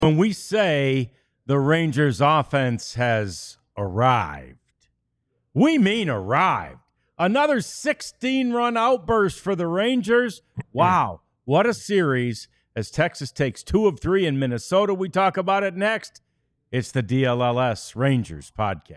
When we say the Rangers offense has arrived, we mean arrived. Another 16-run outburst for the Rangers. Wow, what a series as Texas takes 2 of 3 in Minnesota. We talk about it next. It's the DLLS Rangers podcast.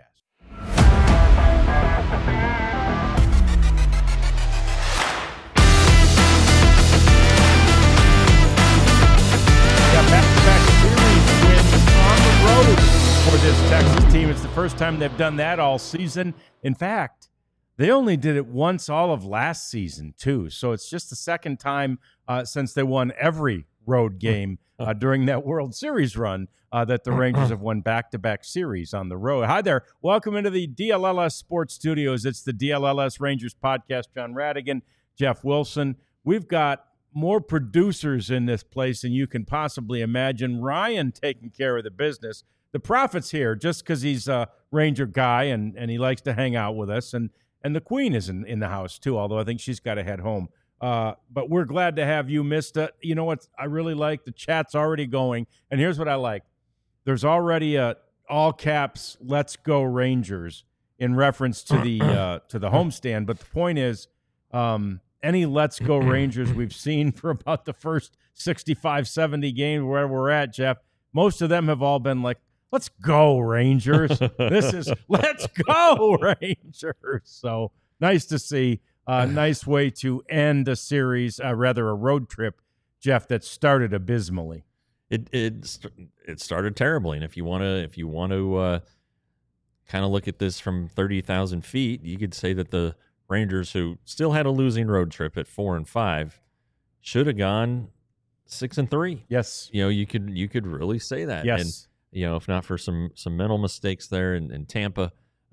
Back-to-back series wins on the road for this Texas team. It's the first time they've done that all season. In fact, they only did it once all of last season, too. So it's just the second time since they won every road game during that World Series run that the Rangers have won back-to-back series on the road. Hi there. Welcome into the DLLS Sports Studios. It's the DLLS Rangers podcast. John Radigan, Jeff Wilson. We've got more producers in this place than you can possibly imagine. Ryan taking care of the business. The Prophet's here just because he's a Ranger guy and he likes to hang out with us. And the Queen is in the house, too, although I think she's got to head home. But we're glad to have you, Mista. You know what I really like? The chat's already going. And here's what I like. There's already a all caps, let's go Rangers in reference to the homestand. But the point is, any let's go Rangers we've seen for about the first 65, 70 games where we're at, Jeff, most of them have all been like, let's go Rangers. This is let's go Rangers. So nice to see. Nice way to end a series, rather a road trip, Jeff, that started abysmally. It started terribly, and if you want to kind of look at this from 30,000 feet, you could say that the Rangers, who still had a losing road trip at 4-5, should have gone 6-3. Yes, you could really say that. Yes, and if not for some mental mistakes there in Tampa,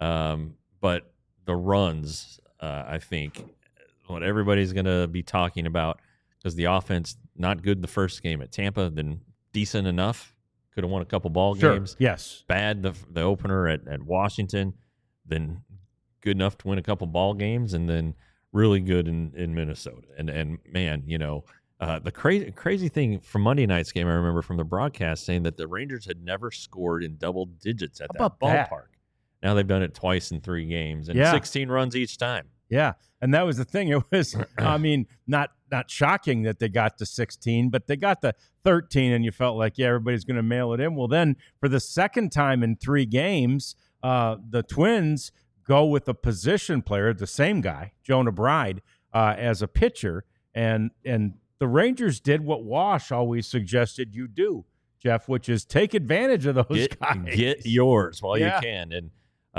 but the runs. I think what everybody's going to be talking about, because the offense not good the first game at Tampa, then decent enough, could have won a couple ball games. Yes, bad the opener at Washington, then good enough to win a couple ball games, and then really good in Minnesota. And man, the crazy thing from Monday night's game, I remember from the broadcast saying that the Rangers had never scored in double digits at that ballpark. Now they've done it twice in 3 games and 16 runs each time. Yeah, and that was the thing. It was, not shocking that they got to 16, but they got to 13, and you felt like, everybody's going to mail it in. Well, then for the second time in 3 games, the Twins go with a position player, the same guy, Jonah Bride, as a pitcher, and the Rangers did what Wash always suggested you do, Jeff, which is take advantage of those guys. Get yours while you can, and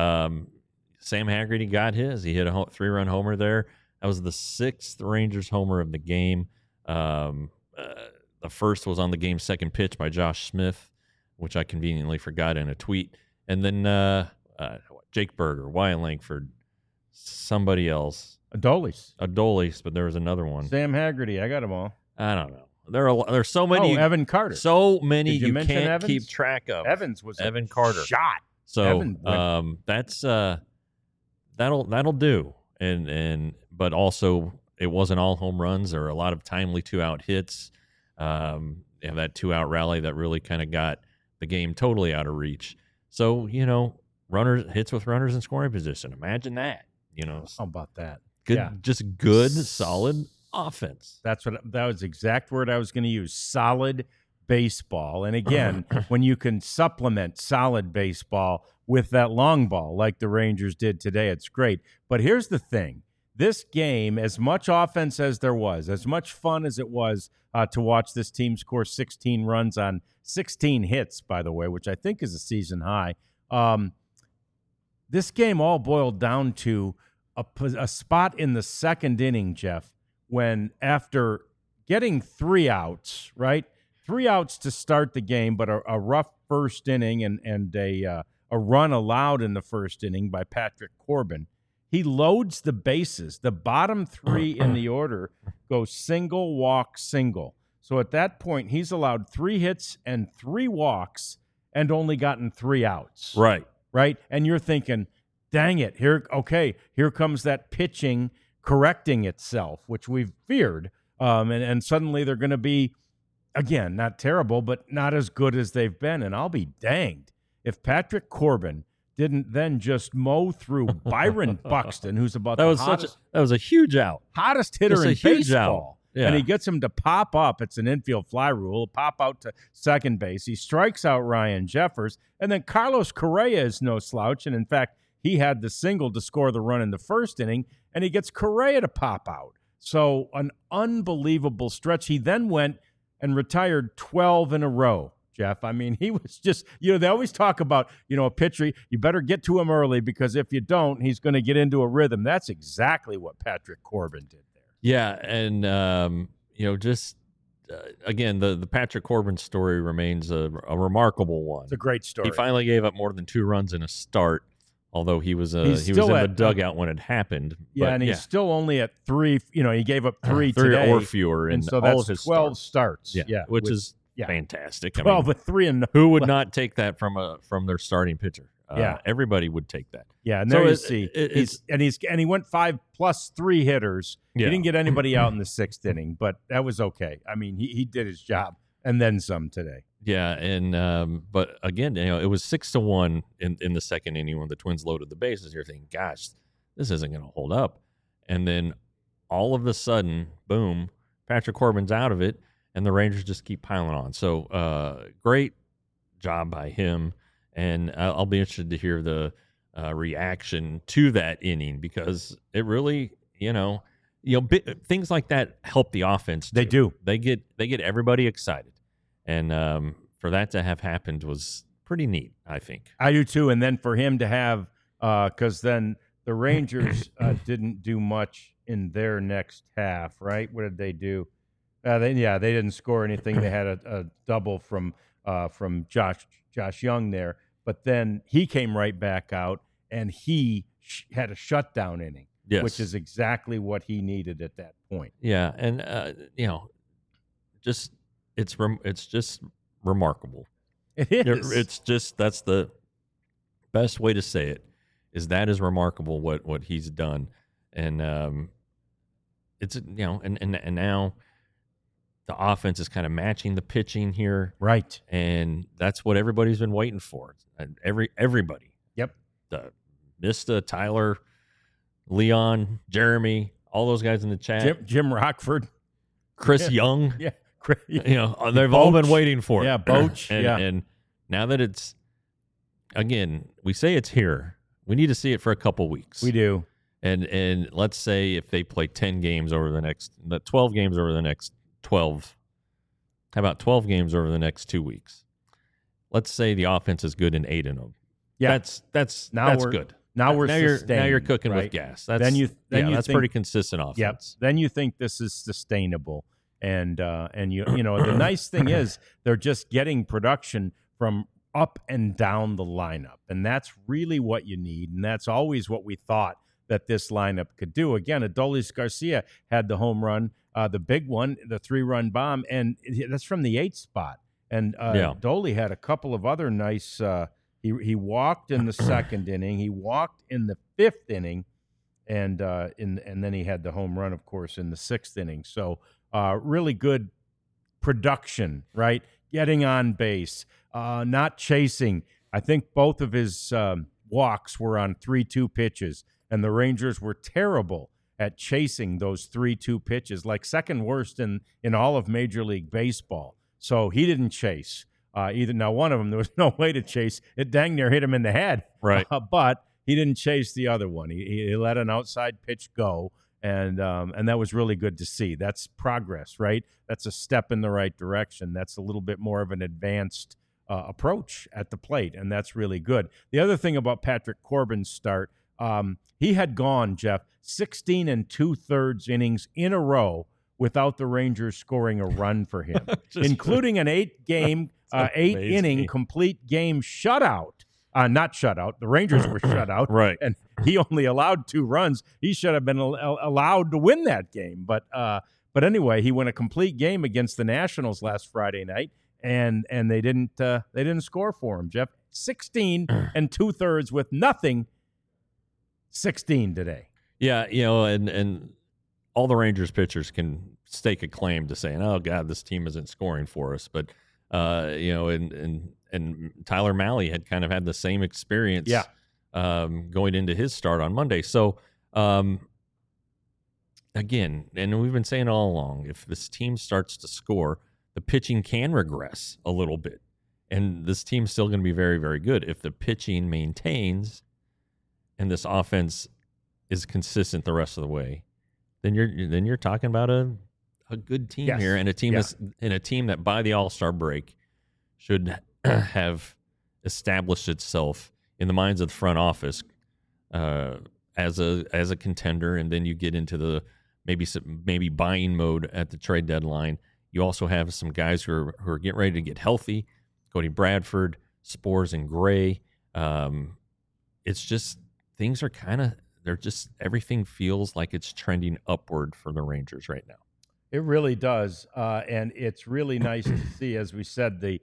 Sam Haggerty got his. He hit a 3-run homer there. That was the 6th Rangers homer of the game. The first was on the game's second pitch by Josh Smith, which I conveniently forgot in a tweet. And then Jake Berger, Wyatt Langford, somebody else. Adolis, but there was another one. Sam Haggerty. I got them all. I don't know. There's so many. Oh, Evan Carter. So many you can't Evans? keep track of. Evans was Evan Carter shot. So that's that'll do. But also it wasn't all home runs. There were a lot of timely 2-out hits. They have that 2-out rally that really kind of got the game totally out of reach. So, runners hits with runners in scoring position. Imagine that. How about that? Good, just good, solid offense. That was the exact word I was going to use. Solid baseball. And again, when you can supplement solid baseball with that long ball like the Rangers did today, it's great. But here's the thing. This game, as much offense as there was, as much fun as it was to watch this team score 16 runs on 16 hits, by the way, which I think is a season high, this game all boiled down to a spot in the second inning, Jeff, when after getting 3 outs, right? 3 outs to start the game, but a rough first inning and a run allowed in the first inning by Patrick Corbin. He loads the bases. The bottom 3 in the order go single, walk, single. So at that point, he's allowed 3 hits and 3 walks and only gotten 3 outs. Right. And you're thinking, dang it, here comes that pitching correcting itself, which we've feared. And suddenly they're going to be again, not terrible, but not as good as they've been. And I'll be danged if Patrick Corbin didn't then just mow through Byron Buxton, who's about that was a huge out, hottest hitter in baseball. Yeah. And he gets him to pop up. It's an infield fly rule. Pop out to second base. He strikes out Ryan Jeffers. And then Carlos Correa is no slouch. And in fact, he had the single to score the run in the first inning, and he gets Correa to pop out. So an unbelievable stretch. He then went and retired 12 in a row, Jeff. I mean, he was just, they always talk about, a pitcher, you better get to him early because if you don't, he's going to get into a rhythm. That's exactly what Patrick Corbin did. Yeah, and again, the Patrick Corbin story remains a remarkable one. It's a great story. He finally gave up more than 2 runs in a start, although he was in the dugout when it happened. Yeah, but, and he's still only at 3. He gave up 3 today or fewer, and so all that's of his 12 starts. Yeah, which is fantastic. 12 with 3 and who would not take that from their starting pitcher? Everybody would take that. Yeah, and there you see, he went 5+3 hitters. Yeah. He didn't get anybody out in the 6th inning, but that was okay. I mean, he did his job and then some today. Yeah, and but again, it was 6-1 in the second inning when the Twins loaded the bases. You're thinking, gosh, this isn't going to hold up, and then all of a sudden, boom, Patrick Corbin's out of it, and the Rangers just keep piling on. So great job by him. And I'll be interested to hear the reaction to that inning because it really, things like that help the offense too. They do. They get everybody excited, and for that to have happened was pretty neat, I think. I do too. And then for him to have, because then the Rangers didn't do much in their next half, right? What did they do? They didn't score anything. They had a double from Josh Young there, but then he came right back out and he had a shutdown inning, which is exactly what he needed at that point. Yeah, and it's just remarkable. It is. It's just that's the best way to say it. That is remarkable what he's done, and it's and now the offense is kind of matching the pitching here, right? And that's what everybody's been waiting for. Everybody. Yep. Mista, Tyler, Leon, Jeremy, all those guys in the chat. Jim Rockford, Chris Young. Yeah. They've all been waiting for it. Yeah, Boch. And now that it's, again, we say it's here. We need to see it for a couple weeks. We do. And let's say if they play 10 games over the next, 12 games over the next 12. How about 12 games over the next 2 weeks? Let's say the offense is good in 8 of them. Yeah, that's good. Now you're cooking right? with gas. That's that's pretty consistent offense. Yep. Then you think this is sustainable, and the nice thing is they're just getting production from up and down the lineup, and that's really what you need, and that's always what we thought that this lineup could do. Again, Adolis Garcia had the home run, the big one, the 3-run bomb, and that's from the 8th spot. And Dolly had a couple of other nice. He walked in the 2nd inning. He walked in the 5th inning, and then he had the home run, of course, in the 6th inning. So really good production, right? Getting on base, not chasing. I think both of his walks were on 3-2 pitches, and the Rangers were terrible at chasing those 3-2 pitches, like second worst in all of Major League Baseball. So he didn't chase either. Now, one of them, there was no way to chase. It dang near hit him in the head. Right. But he didn't chase the other one. He let an outside pitch go, and that was really good to see. That's progress, right? That's a step in the right direction. That's a little bit more of an advanced approach at the plate, and that's really good. The other thing about Patrick Corbin's start, he had gone, Jeff, 16 2/3 innings in a row without the Rangers scoring a run for him, including an 8-inning complete game shutout. Not shutout. The Rangers were shut out. Right. And he only allowed 2 runs. He should have been allowed to win that game. But anyway, he won a complete game against the Nationals last Friday night, and they didn't score for him, Jeff. 16 2/3 with nothing. 16 today. Yeah, and all the Rangers pitchers can stake a claim to saying, "Oh God, this team isn't scoring for us." But and Tyler Mahle had kind of had the same experience, going into his start on Monday. So again, and we've been saying all along, if this team starts to score, the pitching can regress a little bit, and this team's still going to be very, very good if the pitching maintains and this offense is consistent the rest of the way. Then you're talking about a good team here, and a team a team that by the All-Star break should have established itself in the minds of the front office as a contender. And then you get into the maybe buying mode at the trade deadline. You also have some guys who are getting ready to get healthy. Cody Bradford, Spores, and Gray. It's just things are everything feels like it's trending upward for the Rangers right now. It really does, and it's really nice to see, as we said, the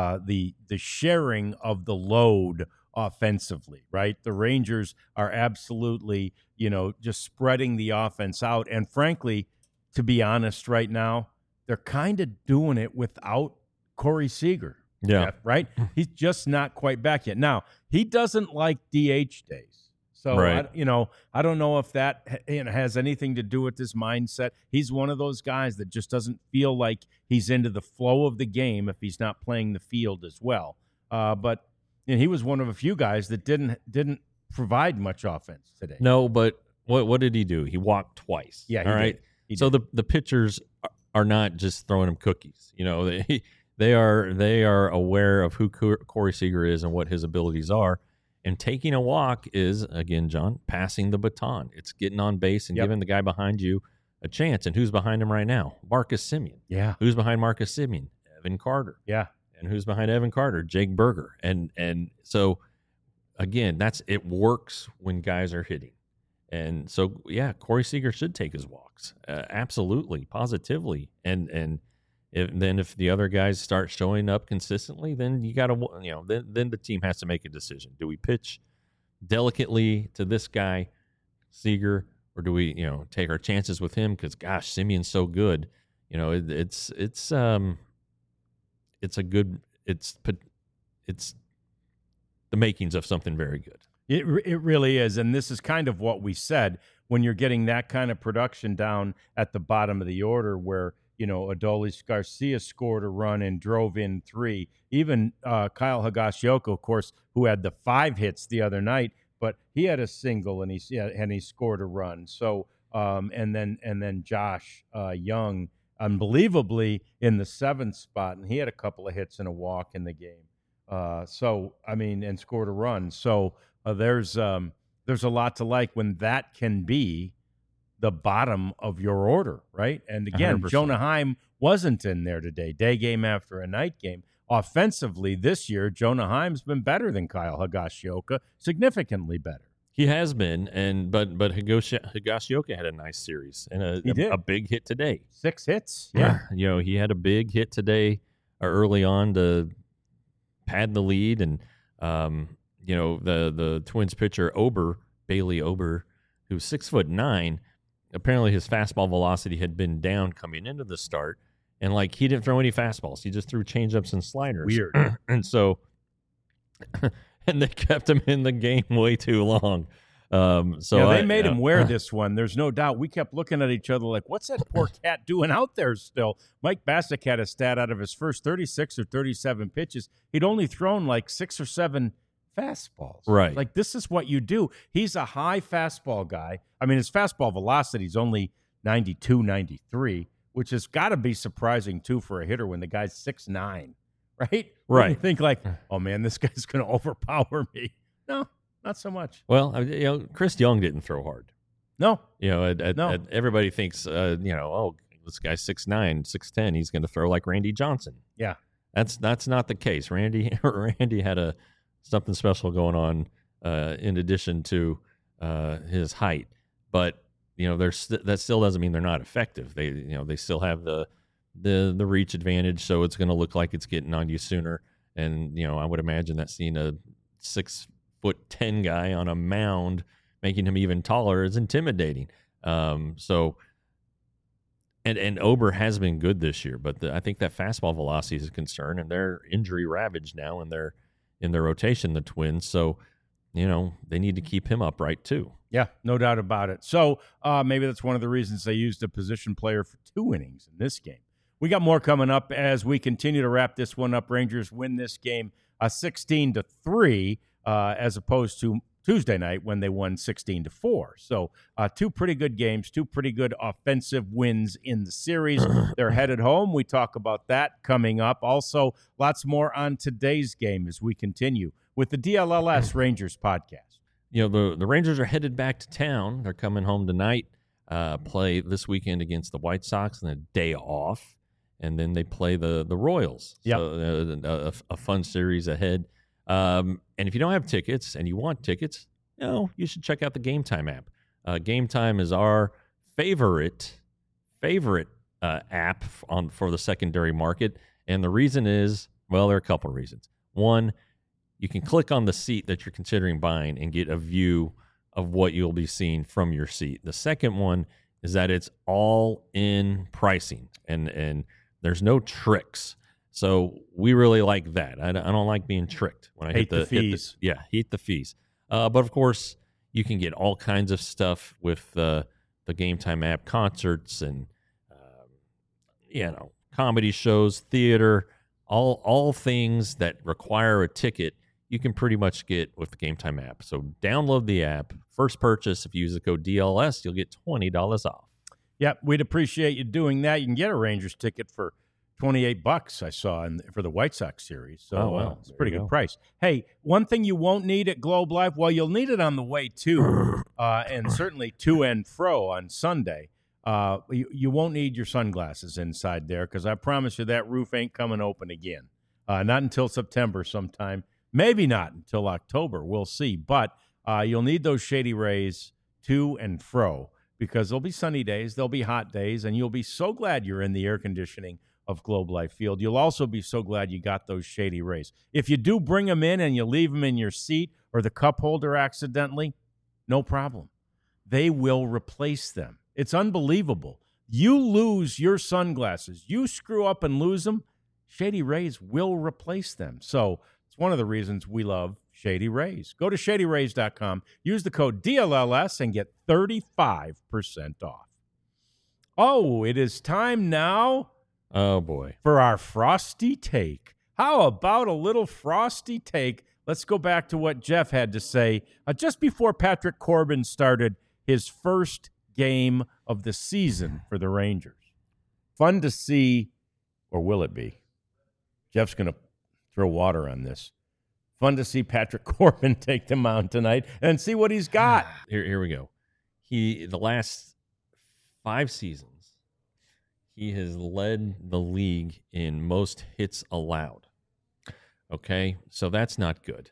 sharing of the load offensively, right? The Rangers are absolutely, just spreading the offense out, and frankly, to be honest, right now, they're kind of doing it without Corey Seager. Yeah, right. He's just not quite back yet. Now, he doesn't like DH days. So, right. I don't know if that has anything to do with his mindset. He's one of those guys that just doesn't feel like he's into the flow of the game if he's not playing the field as well. But he was one of a few guys that didn't provide much offense today. No, but what did he do? He walked twice. Yeah, all right. So the pitchers are not just throwing him cookies. They are aware of who Corey Seager is and what his abilities are. And taking a walk is, again, John, passing the baton. It's getting on base and giving the guy behind you a chance. And who's behind him right now? Marcus Semien. Yeah. Who's behind Marcus Semien? Evan Carter. Yeah. And who's behind Evan Carter? Jake Berger. And so, again, it works when guys are hitting. And so, yeah, Corey Seager should take his walks. Absolutely, positively. And if the other guys start showing up consistently, then you got to, then the team has to make a decision. Do we pitch delicately to this guy, Seager, or do we, take our chances with him? Because gosh, Simeon's so good. It's the makings of something very good. It really is, and this is kind of what we said when you're getting that kind of production down at the bottom of the order, where Adolis Garcia scored a run and drove in 3. Even Kyle Higashioka, of course, who had the 5 hits the other night, but he had a single and he scored a run. So and then Josh Young, unbelievably, in the 7th spot, and he had a couple of hits and a walk in the game. And scored a run. So there's a lot to like when that can be the bottom of your order, right? And again, 100%. Jonah Heim wasn't in there today, day game after a night game. Offensively this year, Jonah Heim's been better than Kyle Higashioka, significantly better. He has been, but Higashioka had a nice series and a big hit today. 6 hits, yeah. He had a big hit today early on to pad the lead, and the Twins pitcher Bailey Ober, who's 6'9", apparently his fastball velocity had been down coming into the start, and he didn't throw any fastballs. He just threw changeups and sliders. Weird. And so, and they kept him in the game way too long. They made him wear this one. There's no doubt. We kept looking at each other like, what's that poor cat doing out there still? Mike Bassick had a stat out of his first 36 or 37 pitches. He'd only thrown 6 or 7 fastballs. Right. This is what you do. He's a high fastball guy. I mean, his fastball velocity is only 92, 93, which has got to be surprising, too, for a hitter when the guy's 6'9", right? Right. You think oh, man, this guy's going to overpower me. No, not so much. Well, Chris Young didn't throw hard. No. No. Everybody thinks, oh, this guy's 6'9", 6'10", he's going to throw like Randy Johnson. Yeah. That's not the case. Randy had something special going on in addition to his height, but that still doesn't mean they're not effective. They still have the reach advantage, so it's going to look like it's getting on you sooner. And I would imagine that seeing a 6'10" guy on a mound, making him even taller, is intimidating. So And Ober has been good this year, but I think that fastball velocity is a concern, and they're injury ravaged now in their rotation, the Twins. So, they need to keep him upright too. Yeah, no doubt about it. So maybe that's one of the reasons they used a position player for 2 innings in this game. We got more coming up as we continue to wrap this one up. Rangers win this game 16-3 as opposed to Tuesday night when they won 16-4. So 2 pretty good games, 2 pretty good offensive wins in the series. They're headed home. We talk about that coming up. Also, lots more on today's game as we continue with the DLLS Rangers podcast. The Rangers are headed back to town. They're coming home tonight, play this weekend against the White Sox and a day off. And then they play the Royals. Yep. So a fun series ahead. And if you don't have tickets and you want tickets, you should check out the Game Time app. Game Time is our favorite app for the secondary market. And the reason is, there are a couple of reasons. One, you can click on the seat that you're considering buying and get a view of what you'll be seeing from your seat. The second one is that it's all in pricing and there's no tricks. So we really like that. I don't like being tricked when I hate the fees. Hate the fees. But of course, you can get all kinds of stuff with the Game Time app, concerts and comedy shows, theater, all things that require a ticket. You can pretty much get with the Game Time app. So download the app. First purchase, if you use the code DLS, you'll get $20 off. Yep, we'd appreciate you doing that. You can get a Rangers ticket for $28 I saw for the White Sox series. So it's a pretty good price. Hey, one thing you won't need at Globe Life, you'll need it on the way to, and certainly to and fro on Sunday. You won't need your sunglasses inside there because I promise you that roof ain't coming open again. Not until September sometime. Maybe not until October. We'll see. But you'll need those Shady Rays to and fro because there'll be sunny days, there'll be hot days, and you'll be so glad you're in the air conditioning of Globe Life Field. You'll also be so glad you got those Shady Rays. If you do bring them in and you leave them in your seat or the cup holder accidentally, no problem. They will replace them. It's unbelievable. You lose your sunglasses. You screw up and lose them, Shady Rays will replace them. So it's one of the reasons we love Shady Rays. Go to ShadyRays.com, use the code DLLS, and get 35% off. Oh, it is time now. Oh, boy. For our Frosty Take. How about a little Frosty Take? Let's go back to what Jeff had to say just before Patrick Corbin started his first game of the season for the Rangers. Fun to see, or will it be? Jeff's going to throw water on this. Fun to see Patrick Corbin take the mound tonight and see what he's got. Here we go. The last 5 seasons, he has led the league in most hits allowed. Okay, so that's not good.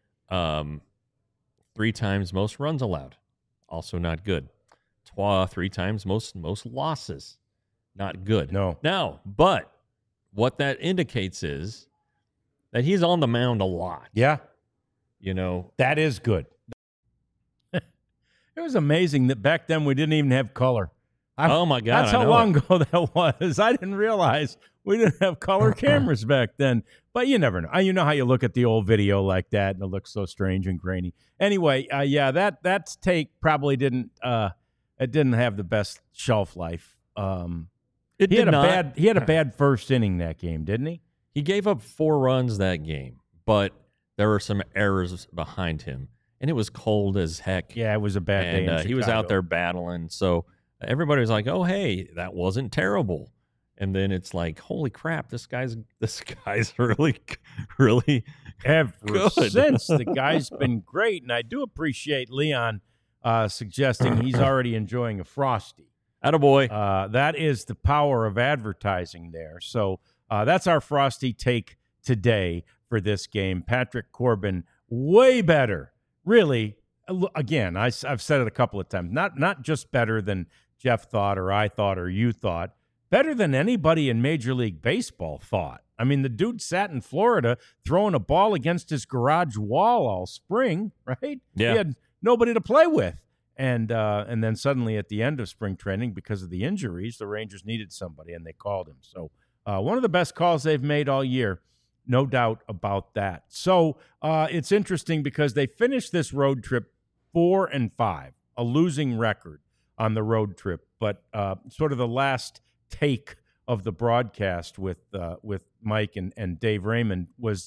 3 times most runs allowed, also not good. 3 times most losses, not good. No. Now, but what that indicates is that he's on the mound a lot. Yeah. That is good. It was amazing that back then we didn't even have color. Oh, my God. That's how long ago that was. I didn't realize we didn't have color cameras back then. But you never know. You know how you look at the old video like that and it looks so strange and grainy. Anyway, that take probably didn't have the best shelf life. He had a bad first inning that game, didn't he? He gave up 4 runs that game, but there were some errors behind him, and it was cold as heck. Yeah, it was a bad day in Chicago. He was out there battling, so everybody was like, "Oh, hey, that wasn't terrible." And then it's like, "Holy crap, this guy's really, really ever good." Since the guy's been great, and I do appreciate Leon suggesting he's already enjoying a Frosty. Attaboy. That is the power of advertising there. So that's our Frosty Take today for this game. Patrick Corbin, way better. Really, again, I've said it a couple of times. Not just better than Jeff thought or I thought or you thought. Better than anybody in Major League Baseball thought. I mean, the dude sat in Florida throwing a ball against his garage wall all spring, right? Yeah. He had nobody to play with. And then suddenly at the end of spring training, because of the injuries, the Rangers needed somebody, and they called him. So one of the best calls they've made all year, no doubt about that. So it's interesting because they finished this road trip 4-5, a losing record on the road trip. But sort of the last take of the broadcast with Mike and Dave Raymond was,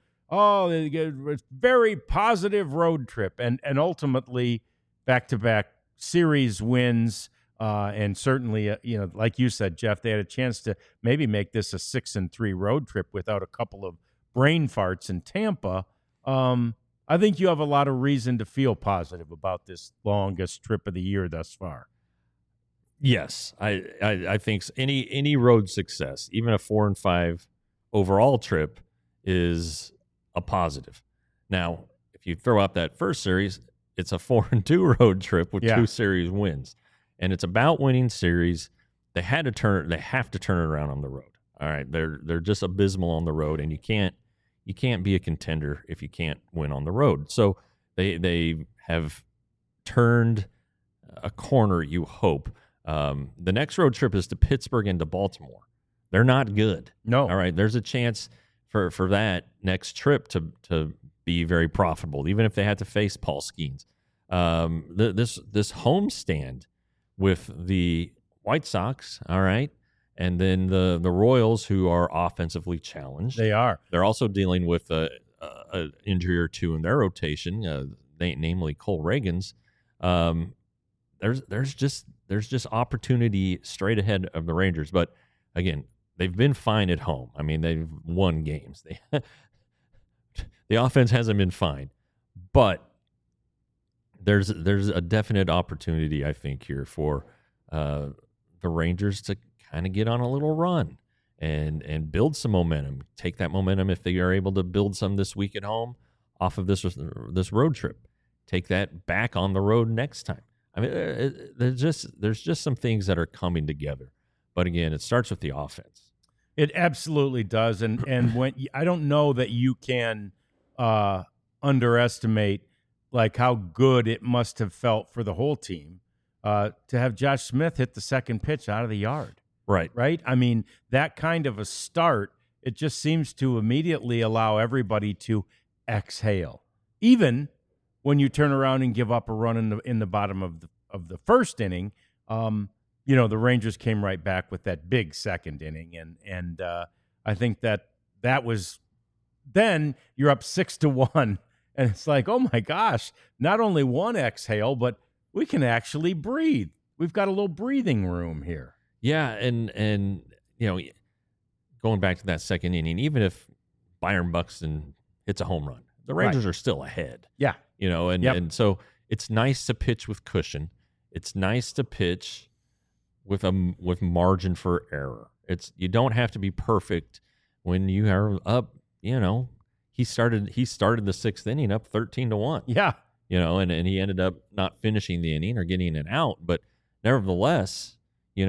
it's very positive road trip, and ultimately back-to-back series wins, and certainly, like you said, Jeff, they had a chance to maybe make this a 6-3 road trip without a couple of brain farts in Tampa. I think you have a lot of reason to feel positive about this longest trip of the year thus far. Yes, I think any road success, even a 4-5 overall trip, is a positive. Now, if you throw out that first series, it's a 4-2 road trip with 2 series wins, and it's about winning series. They have to turn it around on the road. All right, they're just abysmal on the road, and you can't be a contender if you can't win on the road. So they have turned a corner, you hope. The next road trip is to Pittsburgh and to Baltimore. They're not good. No. All right. There's a chance for that next trip to be very profitable, even if they had to face Paul Skeens. This homestand with the White Sox, all right, and then the Royals, who are offensively challenged. They are. They're also dealing with an injury or two in their rotation, namely Cole Reagans. There's just opportunity straight ahead of the Rangers. But again, they've been fine at home. I mean, they've won games. The offense hasn't been fine, but there's a definite opportunity, I think, here for the Rangers to kind of get on a little run and build some momentum. Take that momentum if they are able to build some this week at home off of this road trip. Take that back on the road next time. I mean, there's just some things that are coming together. But again, it starts with the offense. It absolutely does, and when I don't know that you can underestimate like how good it must have felt for the whole team to have Josh Smith hit the second pitch out of the yard. Right. I mean, that kind of a start, it just seems to immediately allow everybody to exhale, even when you turn around and give up a run in the bottom of the first inning. The Rangers came right back with that big second inning, and I think that was then you're up 6-1, and it's like, oh my gosh, not only one exhale, but we can actually breathe. We've got a little breathing room here. Yeah, and going back to that second inning, even if Byron Buxton hits a home run, the Rangers are still ahead. Yeah. And so it's nice to pitch with cushion. It's nice to pitch with margin for error. You don't have to be perfect when you are up. He started the sixth inning up 13-1. Yeah. And he ended up not finishing the inning or getting an out, but nevertheless, he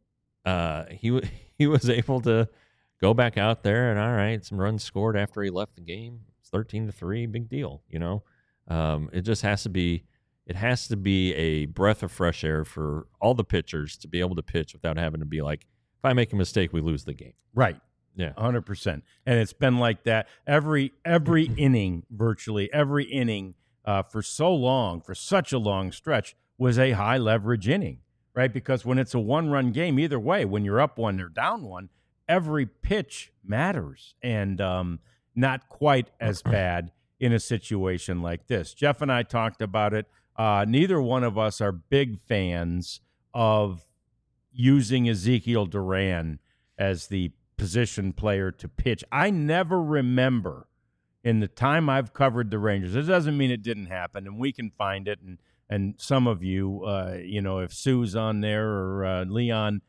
was able to go back out there and all right, some runs scored after he left the game. It's 13-3, big deal. It just has to be a breath of fresh air for all the pitchers to be able to pitch without having to be like, if I make a mistake, we lose the game. Right. Yeah. 100%. And it's been like that every inning, virtually every inning for so long, for such a long stretch, was a high leverage inning, right? Because when it's a one-run game, either way, when you're up one or down one, every pitch matters, and not quite as bad in a situation like this. Jeff and I talked about it. Neither one of us are big fans of using Ezekiel Duran as the position player to pitch. I never remember in the time I've covered the Rangers. It doesn't mean it didn't happen, and we can find it. And some of you, if Sue's on there or Leon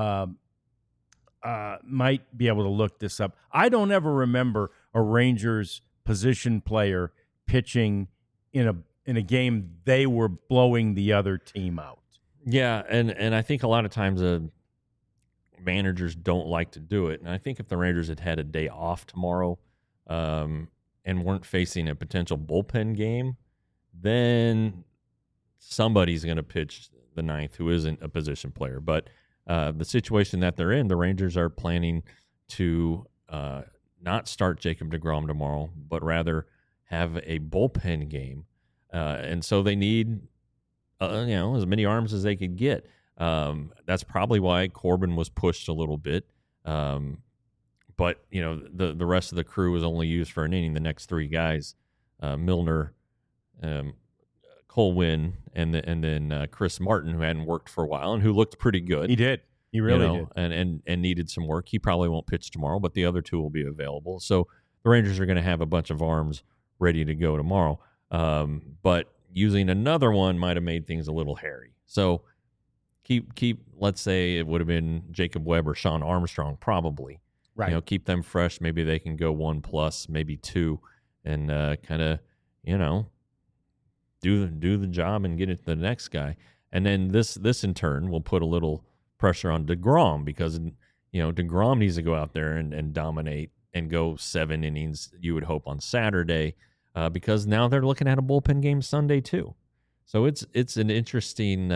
might be able to look this up. I don't ever remember a Rangers position player pitching in a game they were blowing the other team out. Yeah, and I think a lot of times managers don't like to do it. And I think if the Rangers had a day off tomorrow and weren't facing a potential bullpen game, then somebody's going to pitch the ninth who isn't a position player. But the situation that they're in, the Rangers are planning to not start Jacob deGrom tomorrow, but rather have a bullpen game. And so they need, as many arms as they could get. That's probably why Corbin was pushed a little bit. But, the rest of the crew was only used for an inning. The next three guys, Milner, Cole Winn, and then Chris Martin, who hadn't worked for a while and who looked pretty good. He did. He really did. And needed some work. He probably won't pitch tomorrow, but the other two will be available. So the Rangers are going to have a bunch of arms ready to go tomorrow. But using another one might have made things a little hairy. So keep. Let's say it would have been Jacob Webb or Sean Armstrong, probably. Right. Keep them fresh. Maybe they can go 1+, maybe 2, and kind of, do the job and get it to the next guy. And then this in turn will put a little pressure on deGrom, because deGrom needs to go out there and dominate and go 7 innings, you would hope, on Saturday, because now they're looking at a bullpen game Sunday too. So it's an interesting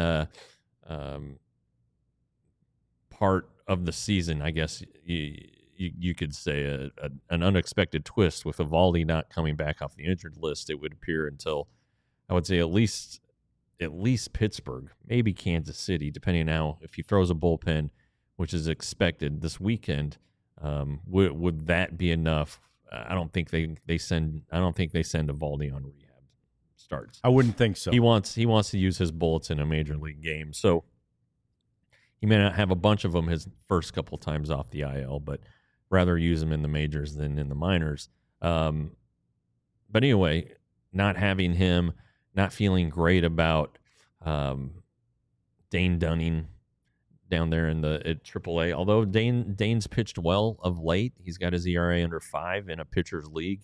part of the season, I guess you could say, an unexpected twist with Eovaldi not coming back off the injured list. It would appear until, I would say, at least Pittsburgh, maybe Kansas City, depending on how, if he throws a bullpen, which is expected this weekend, would that be enough? I don't think they send Eovaldi on rehab starts. I wouldn't think so. He wants to use his bullets in a major league game, so he may not have a bunch of them his first couple times off the IL, but rather use them in the majors than in the minors. But anyway, not having him, not feeling great about Dane Dunning down there at AAA. Although Dane's pitched well of late, he's got his ERA under 5 in a pitcher's league.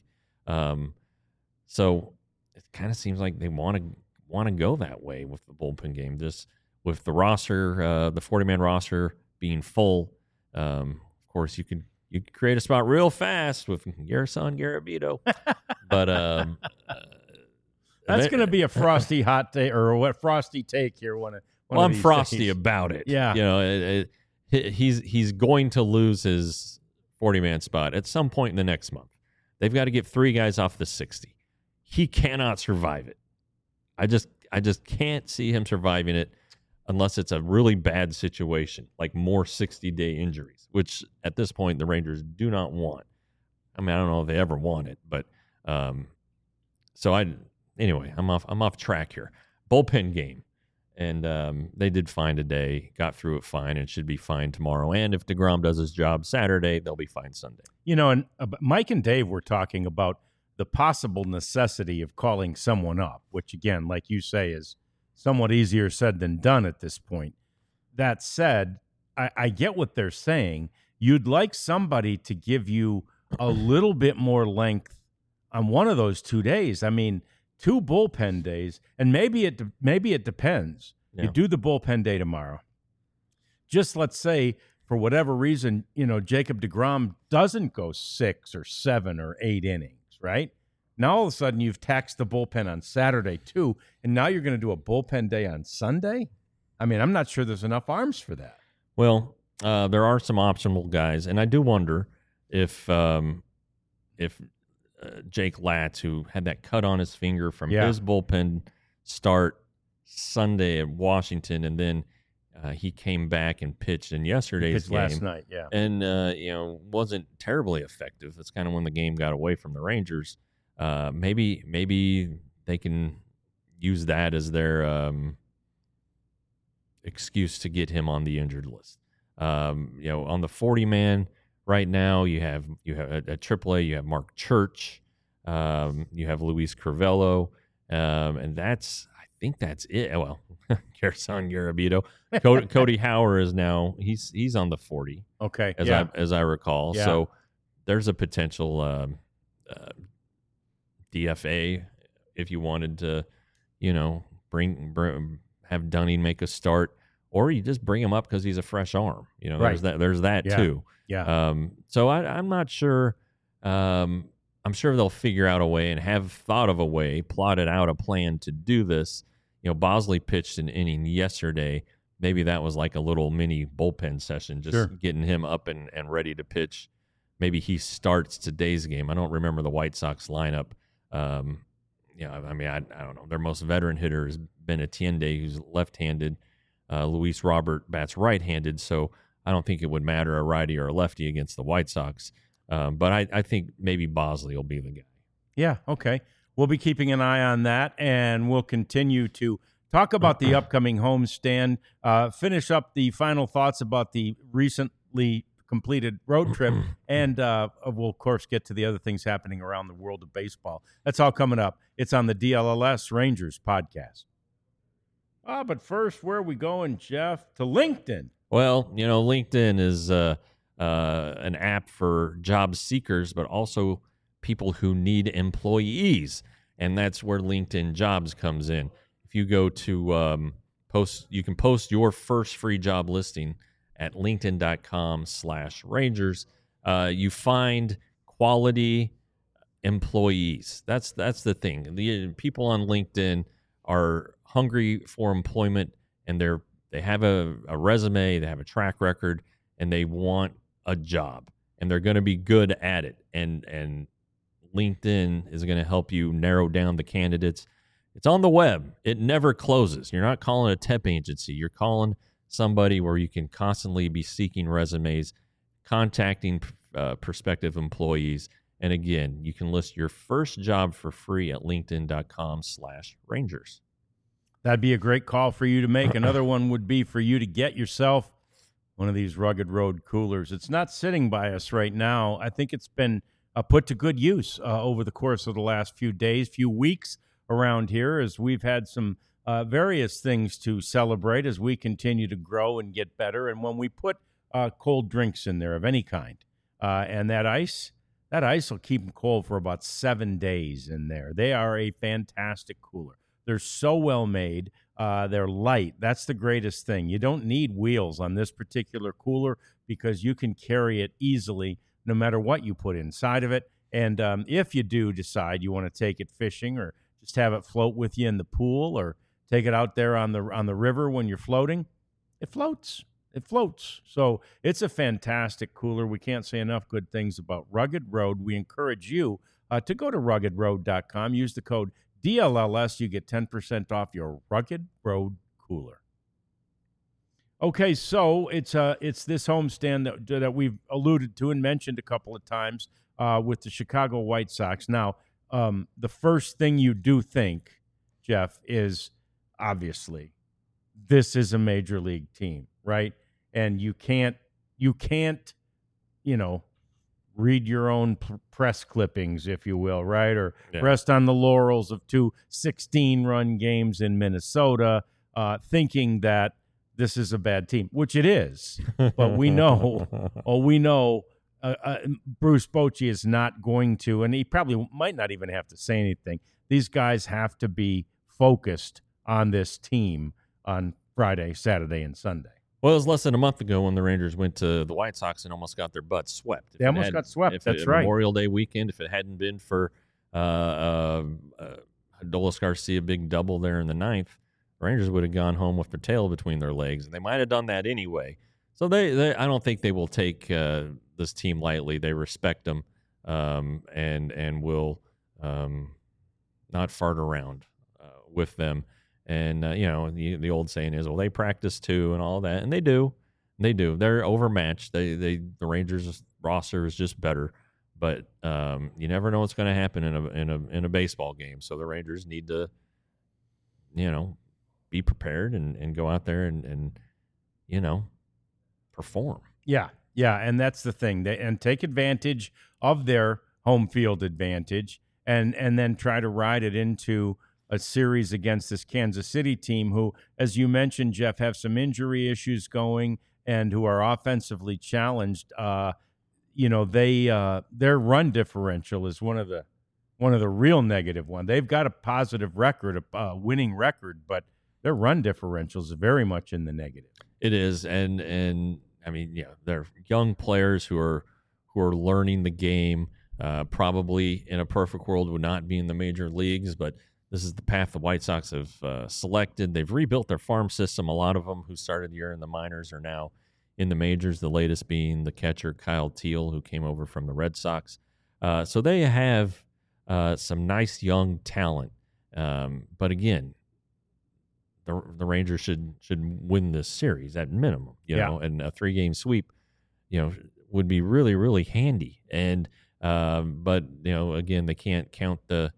So it kind of seems like they want to go that way with the bullpen game. Just with the roster, the 40-man roster being full, of course you could create a spot real fast with Garrison Garabito, but that's going to be a frosty hot take, or what frosty take here. I'm frosty days about it. Yeah, he's going to lose his 40-man spot at some point in the next month. They've got to get 3 guys off the 60. He cannot survive it. I just can't see him surviving it unless it's a really bad situation, like more 60-day injuries, which at this point the Rangers do not want. I mean, I don't know if they ever want it, but anyway, I'm off track here. Bullpen game, and they did fine today, got through it fine, and should be fine tomorrow. And if deGrom does his job Saturday, they'll be fine Sunday. And Mike and Dave were talking about the possible necessity of calling someone up, which, again, like you say, is somewhat easier said than done at this point. That said, I get what they're saying. You'd like somebody to give you a little bit more length on one of those 2 days. I mean, 2 bullpen days, and maybe it depends. Yeah. You do the bullpen day tomorrow. Just let's say, for whatever reason, Jacob deGrom doesn't go 6 or 7 or 8 innings, right? Now all of a sudden you've taxed the bullpen on Saturday too, and now you're going to do a bullpen day on Sunday? I mean, I'm not sure there's enough arms for that. Well, there are some optional guys, and I do wonder if Jake Latz, who had that cut on his finger from his bullpen start Sunday at Washington, and then he came back and pitched in yesterday's game last night, and wasn't terribly effective. That's kind of when the game got away from the Rangers. Maybe they can use that as their excuse to get him on the injured list. On the 40-man right now, you have at AAA, you have Mark Church, you have Luis Crivello, and I think that's it. Well, Garrison Garabito, Cody Hauer is now he's on the 40. Okay, as I recall. Yeah. So there's a potential DFA if you wanted to, have Dunning make a start, or you just bring him up because he's a fresh arm. Right. There's that too. Yeah. So I'm not sure. I'm sure they'll figure out a way and have thought of a way, plotted out a plan to do this. Bosley pitched an inning yesterday. Maybe that was like a little mini bullpen session, just getting him up and ready to pitch. Maybe he starts today's game. I don't remember the White Sox lineup. I don't know. Their most veteran hitter has been Atiende, who's left-handed. Luis Robert bats right-handed, so I don't think it would matter a righty or a lefty against the White Sox. But I think maybe Bosley will be the guy. Yeah, okay. We'll be keeping an eye on that, and we'll continue to talk about the upcoming homestand, finish up the final thoughts about the recently completed road trip, and we'll, of course, get to the other things happening around the world of baseball. That's all coming up. It's on the DLLS Rangers podcast. But first, where are we going, Jeff? To LinkedIn. Well, LinkedIn is an app for job seekers, but also people who need employees, and that's where LinkedIn Jobs comes in. If you go to you can post your first free job listing at linkedin.com/Rangers. You find quality employees. That's the thing. The people on LinkedIn are hungry for employment, and they have a resume, they have a track record, and they want a job, and they're going to be good at it. And LinkedIn is going to help you narrow down the candidates. It's on the web. It never closes. You're not calling a temp agency. You're calling somebody where you can constantly be seeking resumes, contacting prospective employees. And again, you can list your first job for free at linkedin.com/Rangers. That'd be a great call for you to make. Another one would be for you to get yourself one of these Rugged Road coolers. It's not sitting by us right now. I think it's been put to good use over the course of the last few days, few weeks around here, as we've had some various things to celebrate as we continue to grow and get better. And when we put cold drinks in there of any kind, and that ice will keep them cold for about 7 days in there. They are a fantastic cooler. They're so well made. They're light. That's the greatest thing. You don't need wheels on this particular cooler because you can carry it easily no matter what you put inside of it. And if you do decide you want to take it fishing or just have it float with you in the pool or take it out there on the river when you're floating, it floats. It floats. So it's a fantastic cooler. We can't say enough good things about Rugged Road. We encourage you to go to ruggedroad.com. Use the code DLLS. You get 10% off your Rugged Road cooler. Okay, so it's this homestand that we've alluded to and mentioned a couple of times with the Chicago White Sox. Now, the first thing you do think, Jeff, is obviously this is a major league team, right? And you can't, read your own press clippings, if you will, right? Or rest on the laurels of 2 16-run games in Minnesota, thinking that this is a bad team, which it is. But we know, Bruce Bochy is not going to, and he probably might not even have to say anything. These guys have to be focused on this team on Friday, Saturday, and Sunday. Well, it was less than a month ago when the Rangers went to the White Sox and almost got their butts swept. They almost got swept. That's right. Memorial Day weekend, if it hadn't been for Adolis Garcia big double there in the ninth, the Rangers would have gone home with their tail between their legs, and they might have done that anyway. So they I don't think they will take this team lightly. They respect them and will not fart around with them. And, the old saying is, well, they practice too and all that. And they do. They do. They're overmatched. The Rangers roster is just better. But you never know what's going to happen in a baseball game. So the Rangers need to, be prepared and go out there and perform. Yeah. Yeah. And that's the thing. And take advantage of their home field advantage and then try to ride it into a series against this Kansas City team who, as you mentioned, Jeff, have some injury issues going and who are offensively challenged. Their run differential is one of the real negative ones. They've got a positive record, a winning record, but their run differential is very much in the negative. It is, and I mean, they're young players who are learning the game. Probably in a perfect world would not be in the major leagues, but this is the path the White Sox have selected. They've rebuilt their farm system. A lot of them who started the year in the minors are now in the majors, the latest being the catcher Kyle Teal, who came over from the Red Sox. So they have some nice young talent. But again, the Rangers should win this series at minimum, you know, and a 3-game sweep, you know, would be really, really handy. And but you know, again, they can't count the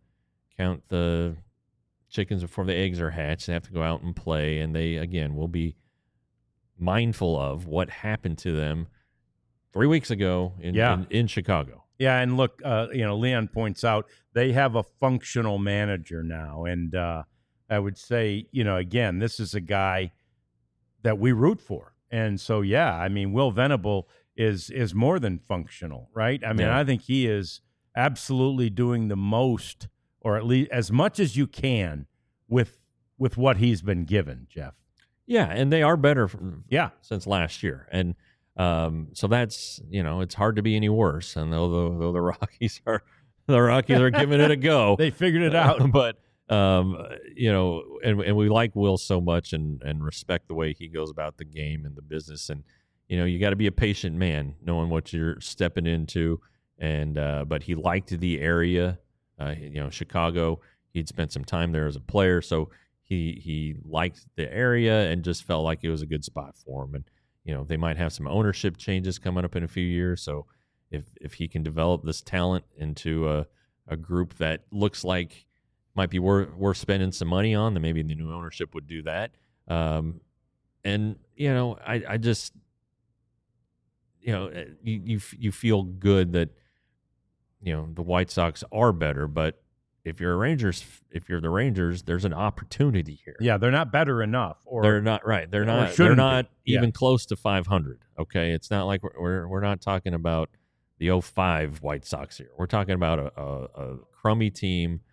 chickens before the eggs are hatched. They have to go out and play, and they again will be mindful of what happened to them 3 weeks ago in Chicago. Yeah, and look, you know, Leon points out they have a functional manager now, and I would say, you know, again, this is a guy that we root for, and so yeah, I mean, Will Venable is more than functional, right? I mean, I think he is absolutely doing the most, or at least as much as you can, with what he's been given, Jeff. Yeah, and they are better since last year, and so that's, you know, it's hard to be any worse. And though the Rockies are giving it a go, they figured it out. But you know, and we like Will so much and respect the way he goes about the game and the business. And you know, you got to be a patient man, knowing what you're stepping into. And but he liked the area, you know, Chicago. He'd spent some time there as a player, so he liked the area and just felt like it was a good spot for him. And you know, they might have some ownership changes coming up in a few years. So if he can develop this talent into a group that looks like might be worth spending some money on, then maybe the new ownership would do that. And you know, I just, you know, you feel good that, you know, the White Sox are better, but if you're the Rangers, there's an opportunity here. Yeah, they're not better enough, or they're not right. They're not even close to 500. Okay, it's not like we're not talking about the 05 White Sox here. We're talking about a crummy team,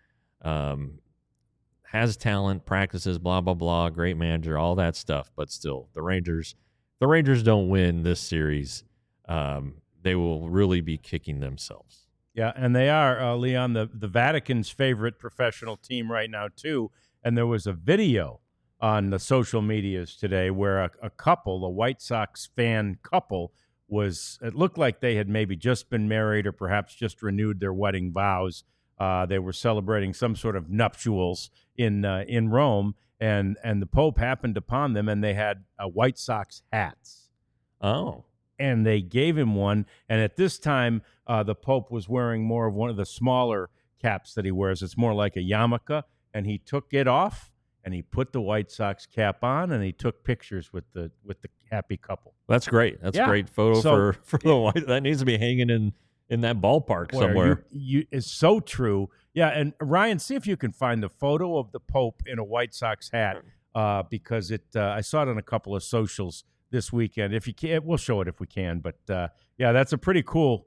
has talent, practices, blah blah blah, great manager, all that stuff. But still, the Rangers don't win this series. They will really be kicking themselves. Yeah, and they are, Leon, the Vatican's favorite professional team right now, too. And there was a video on the social medias today where a couple, a White Sox fan couple, it looked like they had maybe just been married or perhaps just renewed their wedding vows. They were celebrating some sort of nuptials in Rome, and the Pope happened upon them, and they had White Sox hats. Oh. And they gave him one. And at this time, the Pope was wearing more of one of the smaller caps that he wears. It's more like a yarmulke. And he took it off, and he put the White Sox cap on, and he took pictures with the happy couple. That's great. That's a great photo for the White. That needs to be hanging in that ballpark somewhere. It's so true. Yeah, and Ryan, see if you can find the photo of the Pope in a White Sox hat, because I saw it on a couple of socials this weekend. If you can, we'll show it if we can. But yeah, that's a pretty cool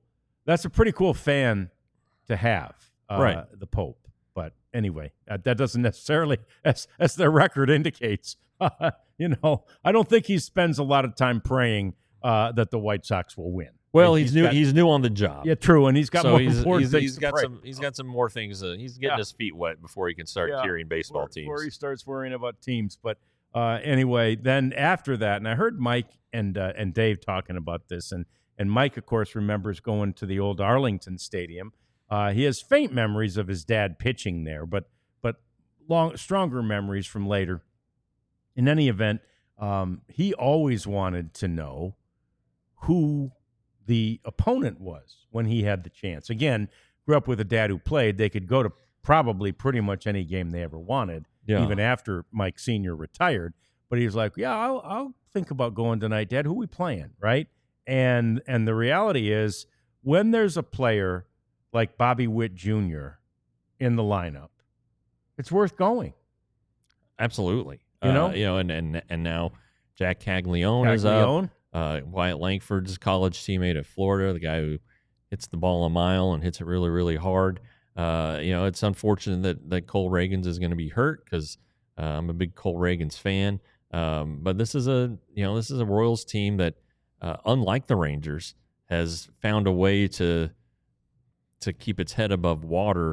fan to have, right? The Pope. But anyway, that doesn't necessarily, as their record indicates, you know, I don't think he spends a lot of time praying that the White Sox will win. Well, he's new on the job. Yeah, true, and he's got more important things. He's got some more things. He's getting his feet wet before he can start cheering baseball teams. Before he starts worrying about teams, but. Anyway, then after that, and I heard Mike and Dave talking about this, and Mike, of course, remembers going to the old Arlington Stadium. He has faint memories of his dad pitching there, but stronger memories from later. In any event, he always wanted to know who the opponent was when he had the chance. Again, grew up with a dad who played. They could go to probably pretty much any game they ever wanted. Yeah. Even after Mike Sr. retired. But he was like, yeah, I'll think about going tonight, Dad. Who we playing, right? And the reality is, when there's a player like Bobby Witt Jr. in the lineup, it's worth going. Absolutely. You know, and now Jack Caglione is up. Wyatt Langford's college teammate at Florida, the guy who hits the ball a mile and hits it really, really hard. You know, it's unfortunate that Cole Reagans is going to be hurt, because I'm a big Cole Reagans fan. But this is a Royals team that, unlike the Rangers, has found a way to keep its head above water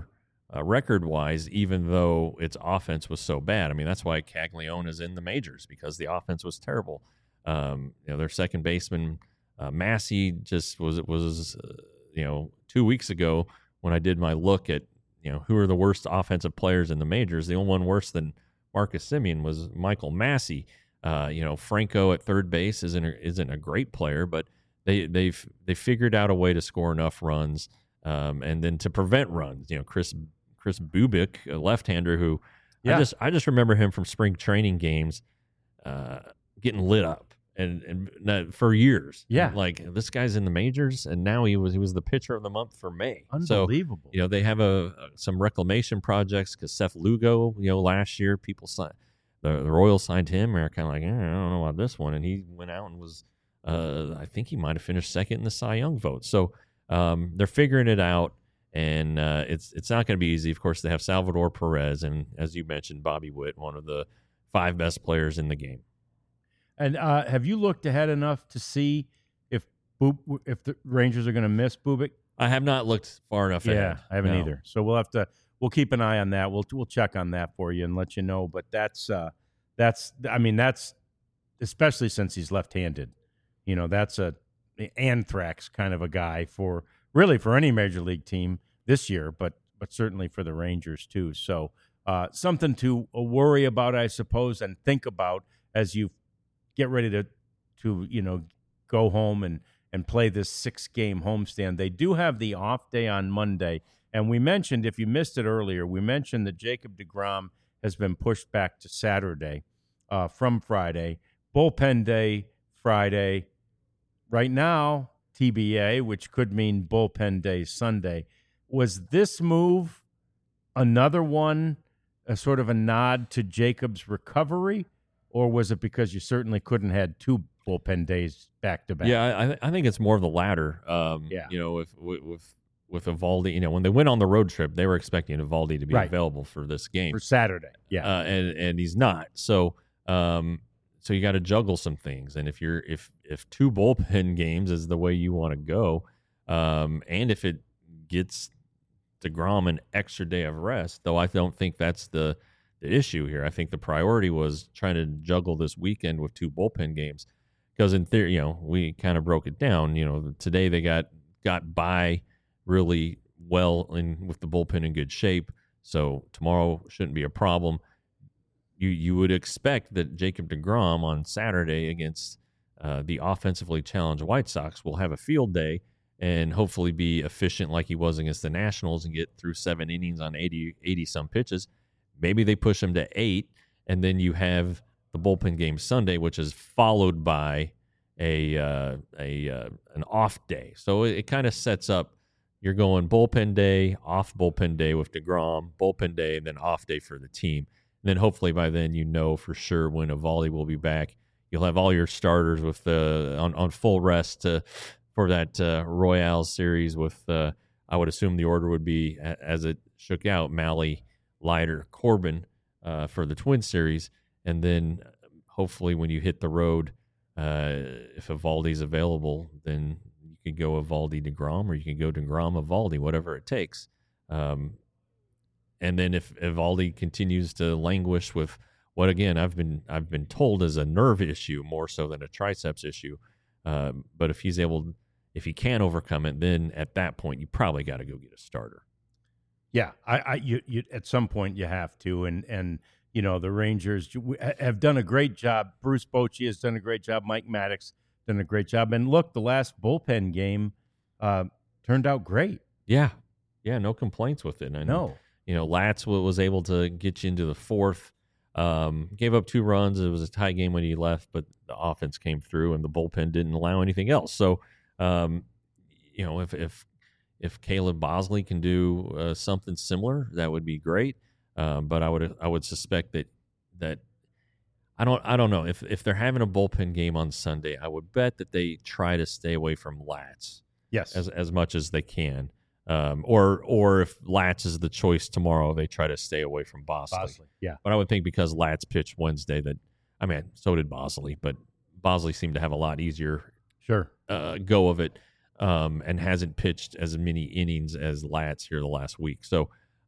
record-wise, even though its offense was so bad. I mean, that's why Caglione is in the majors, because the offense was terrible. Their second baseman, Massey, just was 2 weeks ago when I did my look at who are the worst offensive players in the majors. The only one worse than Marcus Semien was Michael Massey. Franco at third base isn't a great player, but they figured out a way to score enough runs, and then to prevent runs. Chris Bubik, a left-hander who I just remember him from spring training games, getting lit up and for years. Yeah, like this guy's in the majors, and now he was the pitcher of the month for May. Unbelievable. So, they have some reclamation projects because Seth Lugo, last year people signed. The Royals signed him, and they're kind of like, I don't know about this one. And he went out and was, I think he might have finished second in the Cy Young vote. So they're figuring it out, and it's not going to be easy. Of course, they have Salvador Perez, and as you mentioned, Bobby Witt, one of the 5 best players in the game. And have you looked ahead enough to see if the Rangers are going to miss Bubik? I have not looked far enough ahead. Yeah, I haven't either. So we'll keep an eye on that. We'll check on that for you and let you know. But that's especially since he's left-handed. That's a anthrax kind of a guy for any major league team this year, but certainly for the Rangers too. So something to worry about, I suppose, and think about as you get ready to go home and play this 6-game homestand. They do have the off day on Monday. And we mentioned, if you missed it earlier, that Jacob deGrom has been pushed back to Saturday from Friday. Bullpen day Friday. Right now, TBA, which could mean bullpen day Sunday. Was this move another one, a sort of a nod to Jacob's recovery, or was it because you certainly couldn't have 2 bullpen days back to back? Yeah, I think it's more of the latter. With Eovaldi, when they went on the road trip, they were expecting Eovaldi to be available for this game for Saturday. Yeah, and he's not. So you got to juggle some things. And if 2 bullpen games is the way you want to go, and if it gets deGrom an extra day of rest, though I don't think that's the issue here. I think the priority was trying to juggle this weekend with 2 bullpen games, because in theory, we kind of broke it down. Today they got by really well with the bullpen in good shape, so tomorrow shouldn't be a problem. You would expect that Jacob deGrom on Saturday against the offensively challenged White Sox will have a field day and hopefully be efficient like he was against the Nationals and get through 7 innings on 80 some pitches. Maybe they push him to 8, and then you have the bullpen game Sunday, which is followed by an off day. So it kind of sets up. You're going bullpen day, off bullpen day with deGrom, bullpen day, and then off day for the team. And then hopefully by then for sure when Eovaldi will be back. You'll have all your starters with on full rest for that Royals series with, I would assume the order would be, as it shook out, Mahle, Leiter, Corbin for the Twins series. And then hopefully when you hit the road, if Eovaldi's available, then you could go Eovaldi deGrom, or you can go deGrom Eovaldi, whatever it takes. And then if Eovaldi continues to languish with what, again, I've been told is a nerve issue more so than a triceps issue, but if he can overcome it, then at that point you probably got to go get a starter. Yeah, you at some point you have to, and the Rangers have done a great job. Bruce Bochy has done a great job. Mike Maddox done a great job. And look, the last bullpen game turned out great. Yeah, no complaints with it. And, no. Latz was able to get you into the 4th, gave up 2 runs. It was a tie game when he left, but the offense came through and the bullpen didn't allow anything else. So, if Caleb Bosley can do something similar, that would be great. But I would suspect that I don't know if they're having a bullpen game on Sunday. I would bet that they try to stay away from Latz, yes, as much as they can. Or if Latz is the choice tomorrow, they try to stay away from Bosley. Yeah, but I would think because Latz pitched Wednesday so did Bosley, but Bosley seemed to have a lot easier go of it, and hasn't pitched as many innings as Latz here the last week. So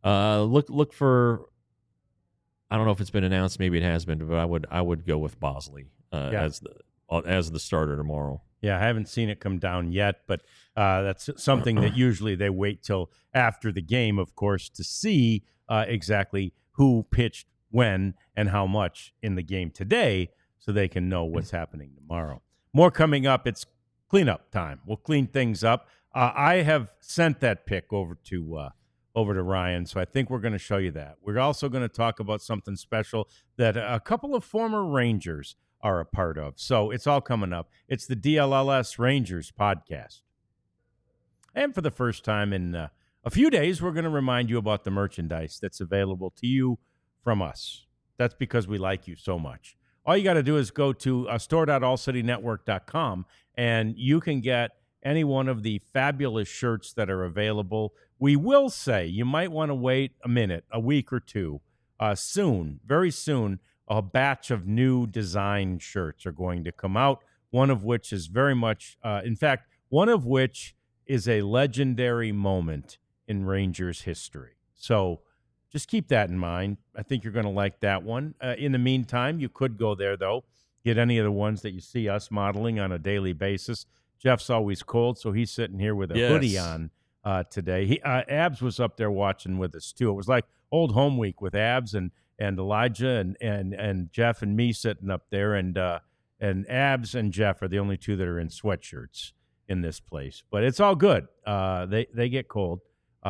Look for. I don't know if it's been announced. Maybe it has been, but I would go with Bosley as the starter tomorrow. Yeah, I haven't seen it come down yet, but that's something that usually they wait till after the game, of course, to see exactly who pitched when and how much in the game today, so they can know what's happening tomorrow. More coming up. It's cleanup time. We'll clean things up. I have sent that pick over to Ryan, so I think we're going to show you that. We're also going to talk about something special that a couple of former Rangers are a part of. So it's all coming up. It's the DLLS Rangers podcast. And for the first time in a few days, we're going to remind you about the merchandise that's available to you from us. That's because we like you so much. All you got to do is go to store.allcitynetwork.com, and you can get any one of the fabulous shirts that are available. We will say you might want to wait a week or two. Soon, very soon, a batch of new design shirts are going to come out, one of which is very much, one of which is a legendary moment in Rangers history. So just keep that in mind. I think you're going to like that one. In the meantime, you could go there, though, get any of the ones that you see us modeling on a daily basis. Jeff's always cold, so he's sitting here with a hoodie on today. Abs was up there watching with us, too. It was like old home week with Abs and Elijah and Jeff and me sitting up there, and Abs and Jeff are the only two that are in sweatshirts in this place. But it's all good. They get cold.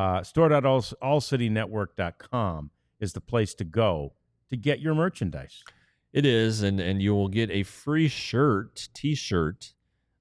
Store.allcitynetwork.com is the place to go to get your merchandise. It is, and you will get a free T-shirt,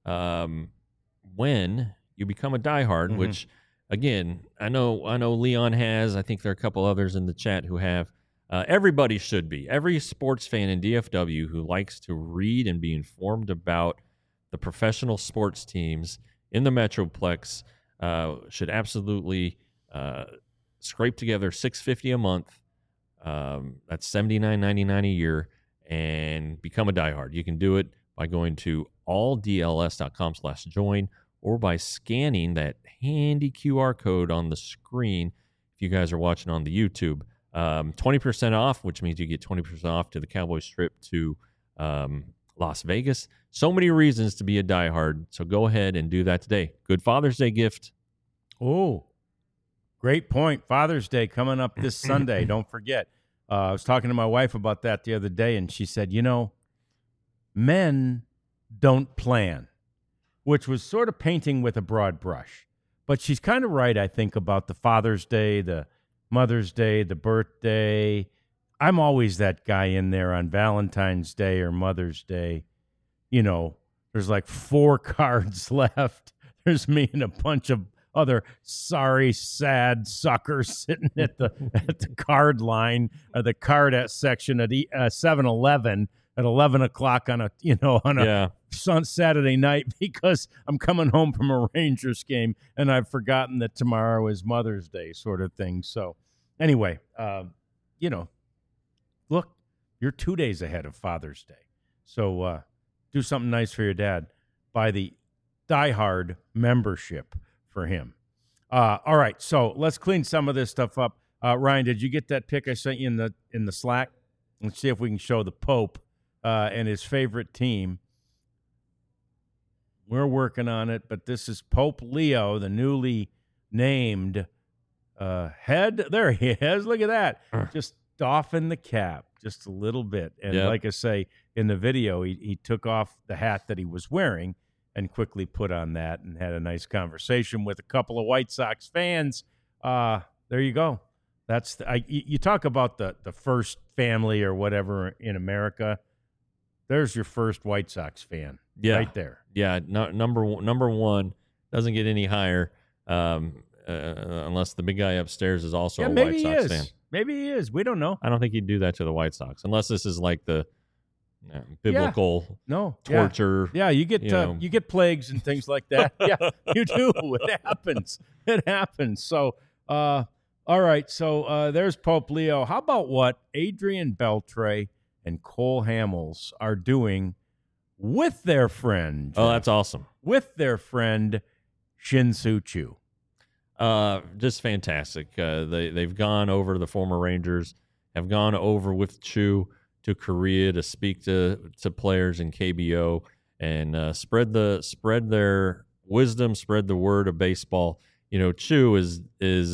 when you become a diehard, which, again, I know Leon has. I think there are a couple others in the chat who have. Everybody should be. Every sports fan in DFW who likes to read and be informed about the professional sports teams in the Metroplex should absolutely scrape together $650 a month. That's $79.99 a year, and become a diehard. You can do it by going to alldls.com/join or by scanning that handy QR code on the screen if you guys are watching on the YouTube. 20% off, which means you get 20% off to the Cowboys trip to Las Vegas. So many reasons to be a diehard, so go ahead and do that today. Good Father's Day gift. Oh, great point. Father's Day coming up this Sunday. Don't forget. I was talking to my wife about that the other day, and she said, men don't plan, which was sort of painting with a broad brush. But she's kind of right, I think, about the Father's Day, the Mother's Day, the birthday. I'm always that guy in there on Valentine's Day or Mother's Day. There's like 4 cards left. There's me and a bunch of other sorry, sad suckers sitting at the card line or the card section at 7-Eleven at 11 o'clock on a Saturday night because I'm coming home from a Rangers game and I've forgotten that tomorrow is Mother's Day, sort of thing. So anyway, look, you're 2 days ahead of Father's Day. So do something nice for your dad. Buy the diehard membership for him. All right, so let's clean some of this stuff up. Ryan, did you get that pic I sent you in the Slack? Let's see if we can show the Pope and his favorite team. We're working on it, but this is Pope Leo, the newly named head. There he is. Look at that. Just doffing the cap just a little bit. And like I say, in the video, he took off the hat that he was wearing and quickly put on that and had a nice conversation with a couple of White Sox fans. There you go. That's you talk about the first family or whatever in America. There's your first White Sox fan right there. Yeah, number one doesn't get any higher unless the big guy upstairs is also a White Sox fan. Maybe he is. We don't know. I don't think he'd do that to the White Sox unless this is like the biblical torture. Yeah, you get plagues and things like that. Yeah, you do. It happens. It happens. So, all right. So there's Pope Leo. How about what Adrian Beltre and Cole Hamels are doing with their friend? Oh, that's awesome. With their friend Shin-Soo Choo. Just fantastic. They've gone over, the former Rangers have gone over with Chu to Korea to speak to players in KBO and spread their wisdom, spread the word of baseball. Chu is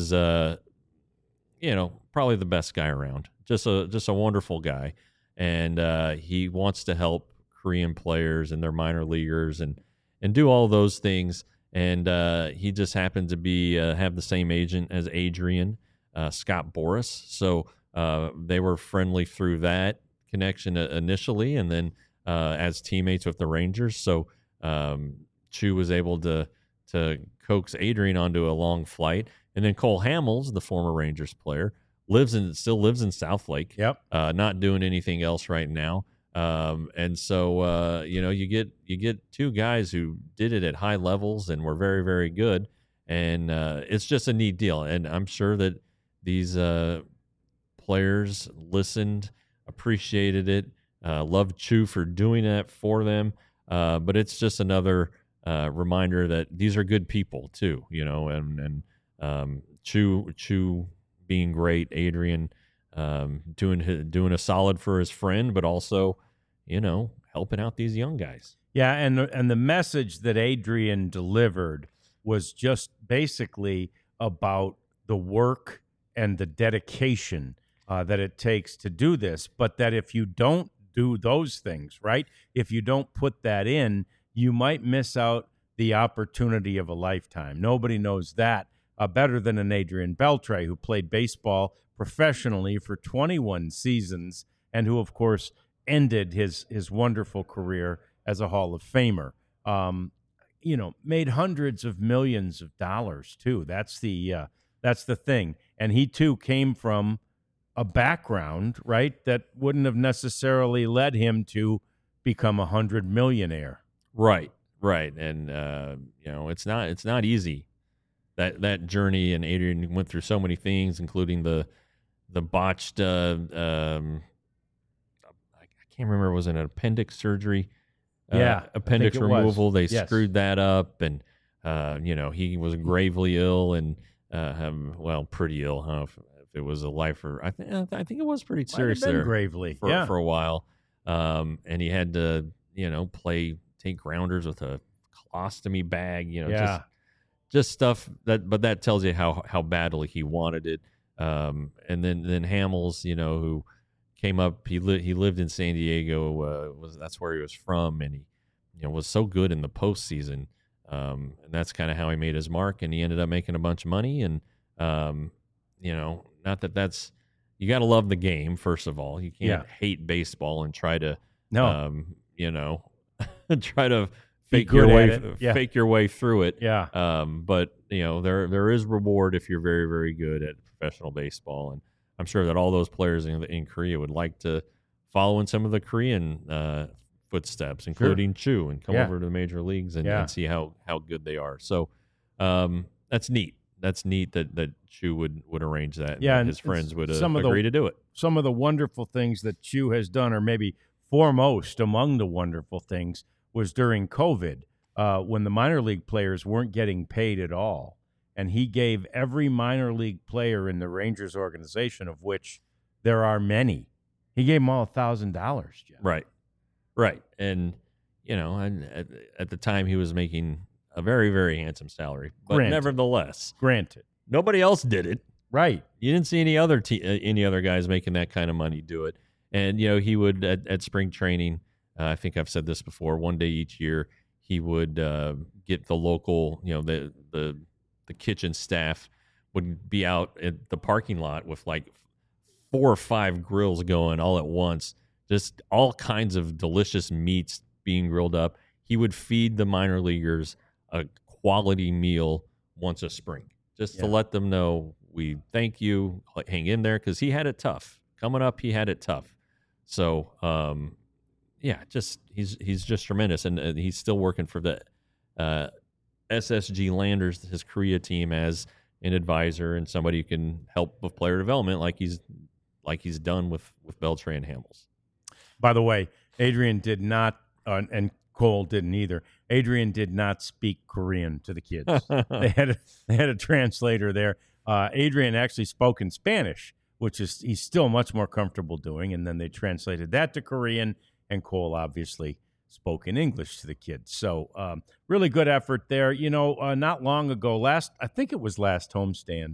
probably the best guy around. Just a wonderful guy, and he wants to help Korean players and their minor leaguers and do all those things. And he just happened to be have the same agent as Adrian, Scott Boras. So they were friendly through that connection initially, and then as teammates with the Rangers. So Chu was able to coax Adrian onto a long flight, and then Cole Hamels, the former Rangers player, still lives in Southlake. Yep. Not doing anything else right now. And so you get two guys who did it at high levels and were very, very good, and it's just a neat deal. And I'm sure that these players listened, appreciated it, loved Chu for doing that for them. But it's just another reminder that these are good people too, and Chu being great, Adrian doing a solid for his friend, but also, helping out these young guys. Yeah, and the message that Adrian delivered was just basically about the work and the dedication that it takes to do this, but that if you don't do those things, right, if you don't put that in, you might miss out the opportunity of a lifetime. Nobody knows that better than an Adrian Beltre, who played baseball professionally for 21 seasons and who, of course, ended his wonderful career as a Hall of Famer. Made hundreds of millions of dollars too. That's the thing. And he too came from a background, right, that wouldn't have necessarily led him to become 100 millionaire. Right. And it's not easy, that journey. And Adrian went through so many things, including the botched I can't remember, was it an appendix surgery? Appendix removal. They screwed that up, and he was gravely ill and pretty ill, huh? If it was a life, or I think it was pretty serious there, gravely for a while. And he had to take grounders with a colostomy bag, just stuff that tells you how badly he wanted it. And then Hamels, who came up, he lived in San Diego, that's where he was from, and he was so good in the postseason, and that's kind of how he made his mark, and he ended up making a bunch of money. And not that's, you got to love the game, first of all. You can't hate baseball and try to try to fake your way through it. But there is reward if you're very, very good at professional baseball, and I'm sure that all those players in Korea would like to follow in some of the Korean footsteps, including Chu, and come over to the major leagues and see how good they are. So that's neat. That's neat that Chu would arrange that. Yeah, and his friends would agree to do it. Some of the wonderful things that Chu has done, or maybe foremost among the wonderful things, was during COVID, when the minor league players weren't getting paid at all. And he gave every minor league player in the Rangers organization, of which there are many, he gave them all $1,000. Jeff. Right. And, at the time he was making a very, very handsome salary. But nevertheless. Granted. Nobody else did it. Right. You didn't see any other guys making that kind of money do it. And, he would, at spring training, I think I've said this before, one day each year, he would get the local, the kitchen staff would be out at the parking lot with like 4 or 5 grills going all at once, just all kinds of delicious meats being grilled up. He would feed the minor leaguers a quality meal once a spring, just to let them know, we thank you, hang in there, because he had it tough. Coming up, he had it tough. So, he's just tremendous, and he's still working for the SSG Landers, his Korea team, as an advisor and somebody who can help with player development, like he's done with Beltre and Hamels. By the way, Adrian did not, and Cole didn't either. Adrian did not speak Korean to the kids. They had a translator there. Adrian actually spoke in Spanish, which is he's still much more comfortable doing, and then they translated that to Korean, and Cole obviously spoke in English to the kids. So really good effort there. Not long ago, I think it was last homestand,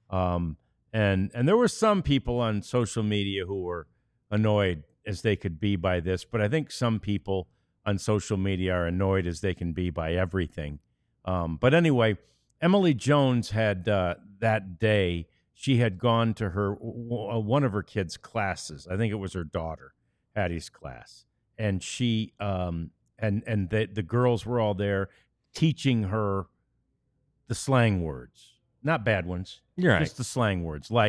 and there were some people on social media who were annoyed as they could be by this, but I think some people on social media are annoyed as they can be by everything. But anyway, Emily Jones had that day, she had gone to one of her kids' classes. I think it was her daughter, Hattie's class. And she and the girls were all there teaching her the slang words. Not bad ones. You're right. Just the slang words like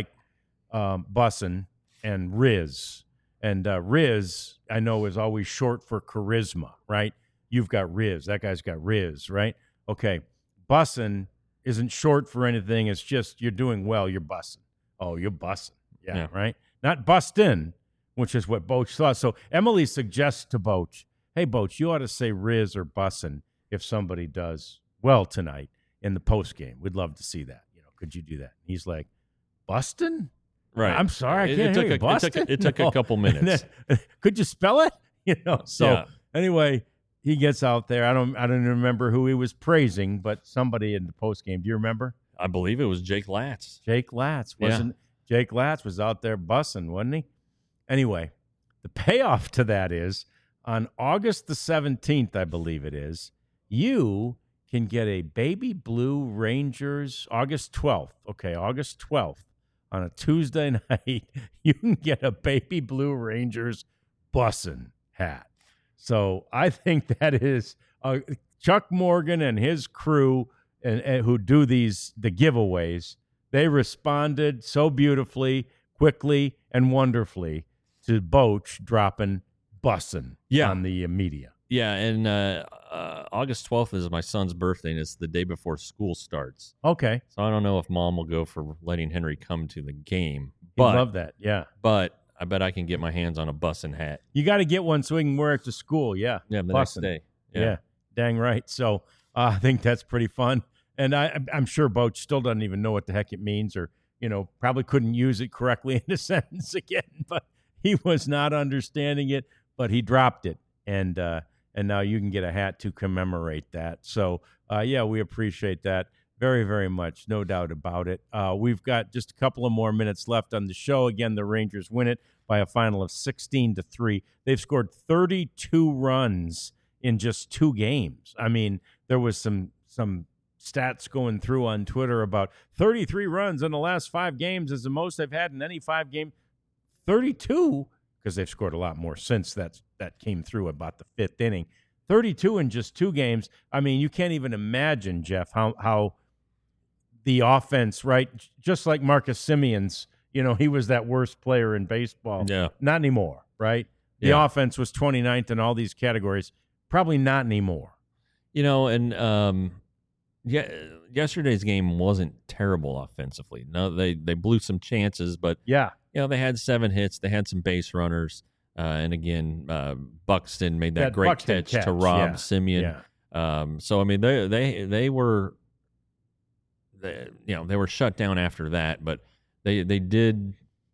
bussin' and riz. And Riz, I know, is always short for charisma, right? You've got Riz. That guy's got Riz, right? Okay. Bussin' isn't short for anything. It's just you're doing well. You're bussin'. Oh, you're bussin'. Yeah, right? Not bustin', which is what Boach thought. So Emily suggests to Boach, hey, Boach, you ought to say Riz or bussin' if somebody does well tonight in the postgame. We'd love to see that. Could you do that? He's like, bustin'? Right. I'm sorry, I can't hear you. Bustin'? It took a couple minutes. Could you spell it? Anyway, he gets out there. I don't remember who he was praising, but somebody in the postgame. Do you remember? I believe it was Jake Latz. Jake Latz Jake Latz was out there bussing, wasn't he? Anyway, the payoff to that is on August the 17th, I believe it is, you can get a Baby Blue Rangers August 12th. Okay, August 12th. On a Tuesday night, you can get a Baby Blue Rangers bussin' hat. So I think that is Chuck Morgan and his crew and who do the giveaways. They responded so beautifully, quickly, and wonderfully to Boach dropping bussin' on the media. Yeah, and August 12th is my son's birthday, and it's the day before school starts. Okay. So I don't know if Mom will go for letting Henry come to the game. I love that, yeah. But I bet I can get my hands on a bussin' hat. You got to get one so he can wear it to school, yeah. Yeah, the next day. Yeah, dang right. So I think that's pretty fun. And I'm sure Boach still doesn't even know what the heck it means or, probably couldn't use it correctly in a sentence again. But he was not understanding it, but he dropped it. And now you can get a hat to commemorate that. So, we appreciate that very, very much. No doubt about it. We've got just a couple of more minutes left on the show. Again, the Rangers win it by a final of 16-3. They've scored 32 runs in just 2 games. I mean, there was some stats going through on Twitter about 33 runs in the last 5 games is the most they've had in any 5 game. 32, because they've scored a lot more since that came through about the 5th inning. 32 in just 2 games. I mean, you can't even imagine, Jeff, how the offense, right? Just like Marcus Semion's, he was that worst player in baseball. Yeah. Not anymore, right? The offense was 29th in all these categories. Probably not anymore. And yesterday's game wasn't terrible offensively. No, they blew some chances, but they had 7 hits. They had some base runners. And again, Buxton made that great catch to rob Semien. Yeah. So I mean, they were shut down after that, but they did,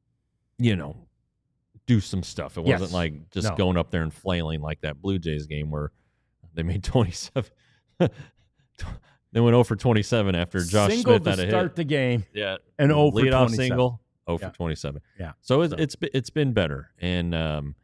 do some stuff. It wasn't like just going up there and flailing like that Blue Jays game where they made 27. They went 0 for 27 after Josh single Smith had a hit. Start the game. Yeah, and 0 for 27. Leadoff single. 0 for 27. Yeah. So it's been better, and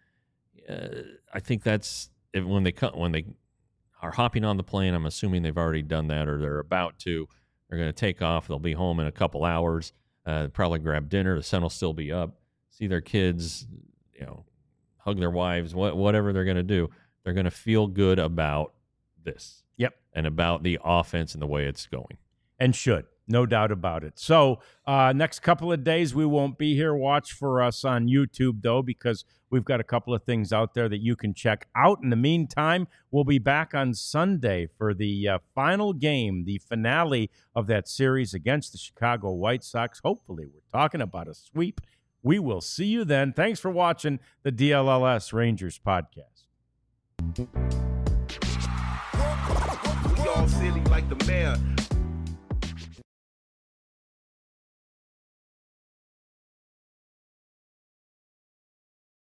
I think that's when they are hopping on the plane. I'm assuming they've already done that, or they're about to. They're going to take off. They'll be home in a couple hours. Probably grab dinner. The sun will still be up. See their kids, hug their wives. Whatever they're going to do, they're going to feel good about this. Yep. And about the offense and the way it's going. And should. No doubt about it. So next couple of days, we won't be here. Watch for us on YouTube, though, because we've got a couple of things out there that you can check out. In the meantime, we'll be back on Sunday for the final game, the finale of that series against the Chicago White Sox. Hopefully, we're talking about a sweep. We will see you then. Thanks for watching the DLLS Rangers podcast. silly like the mayor.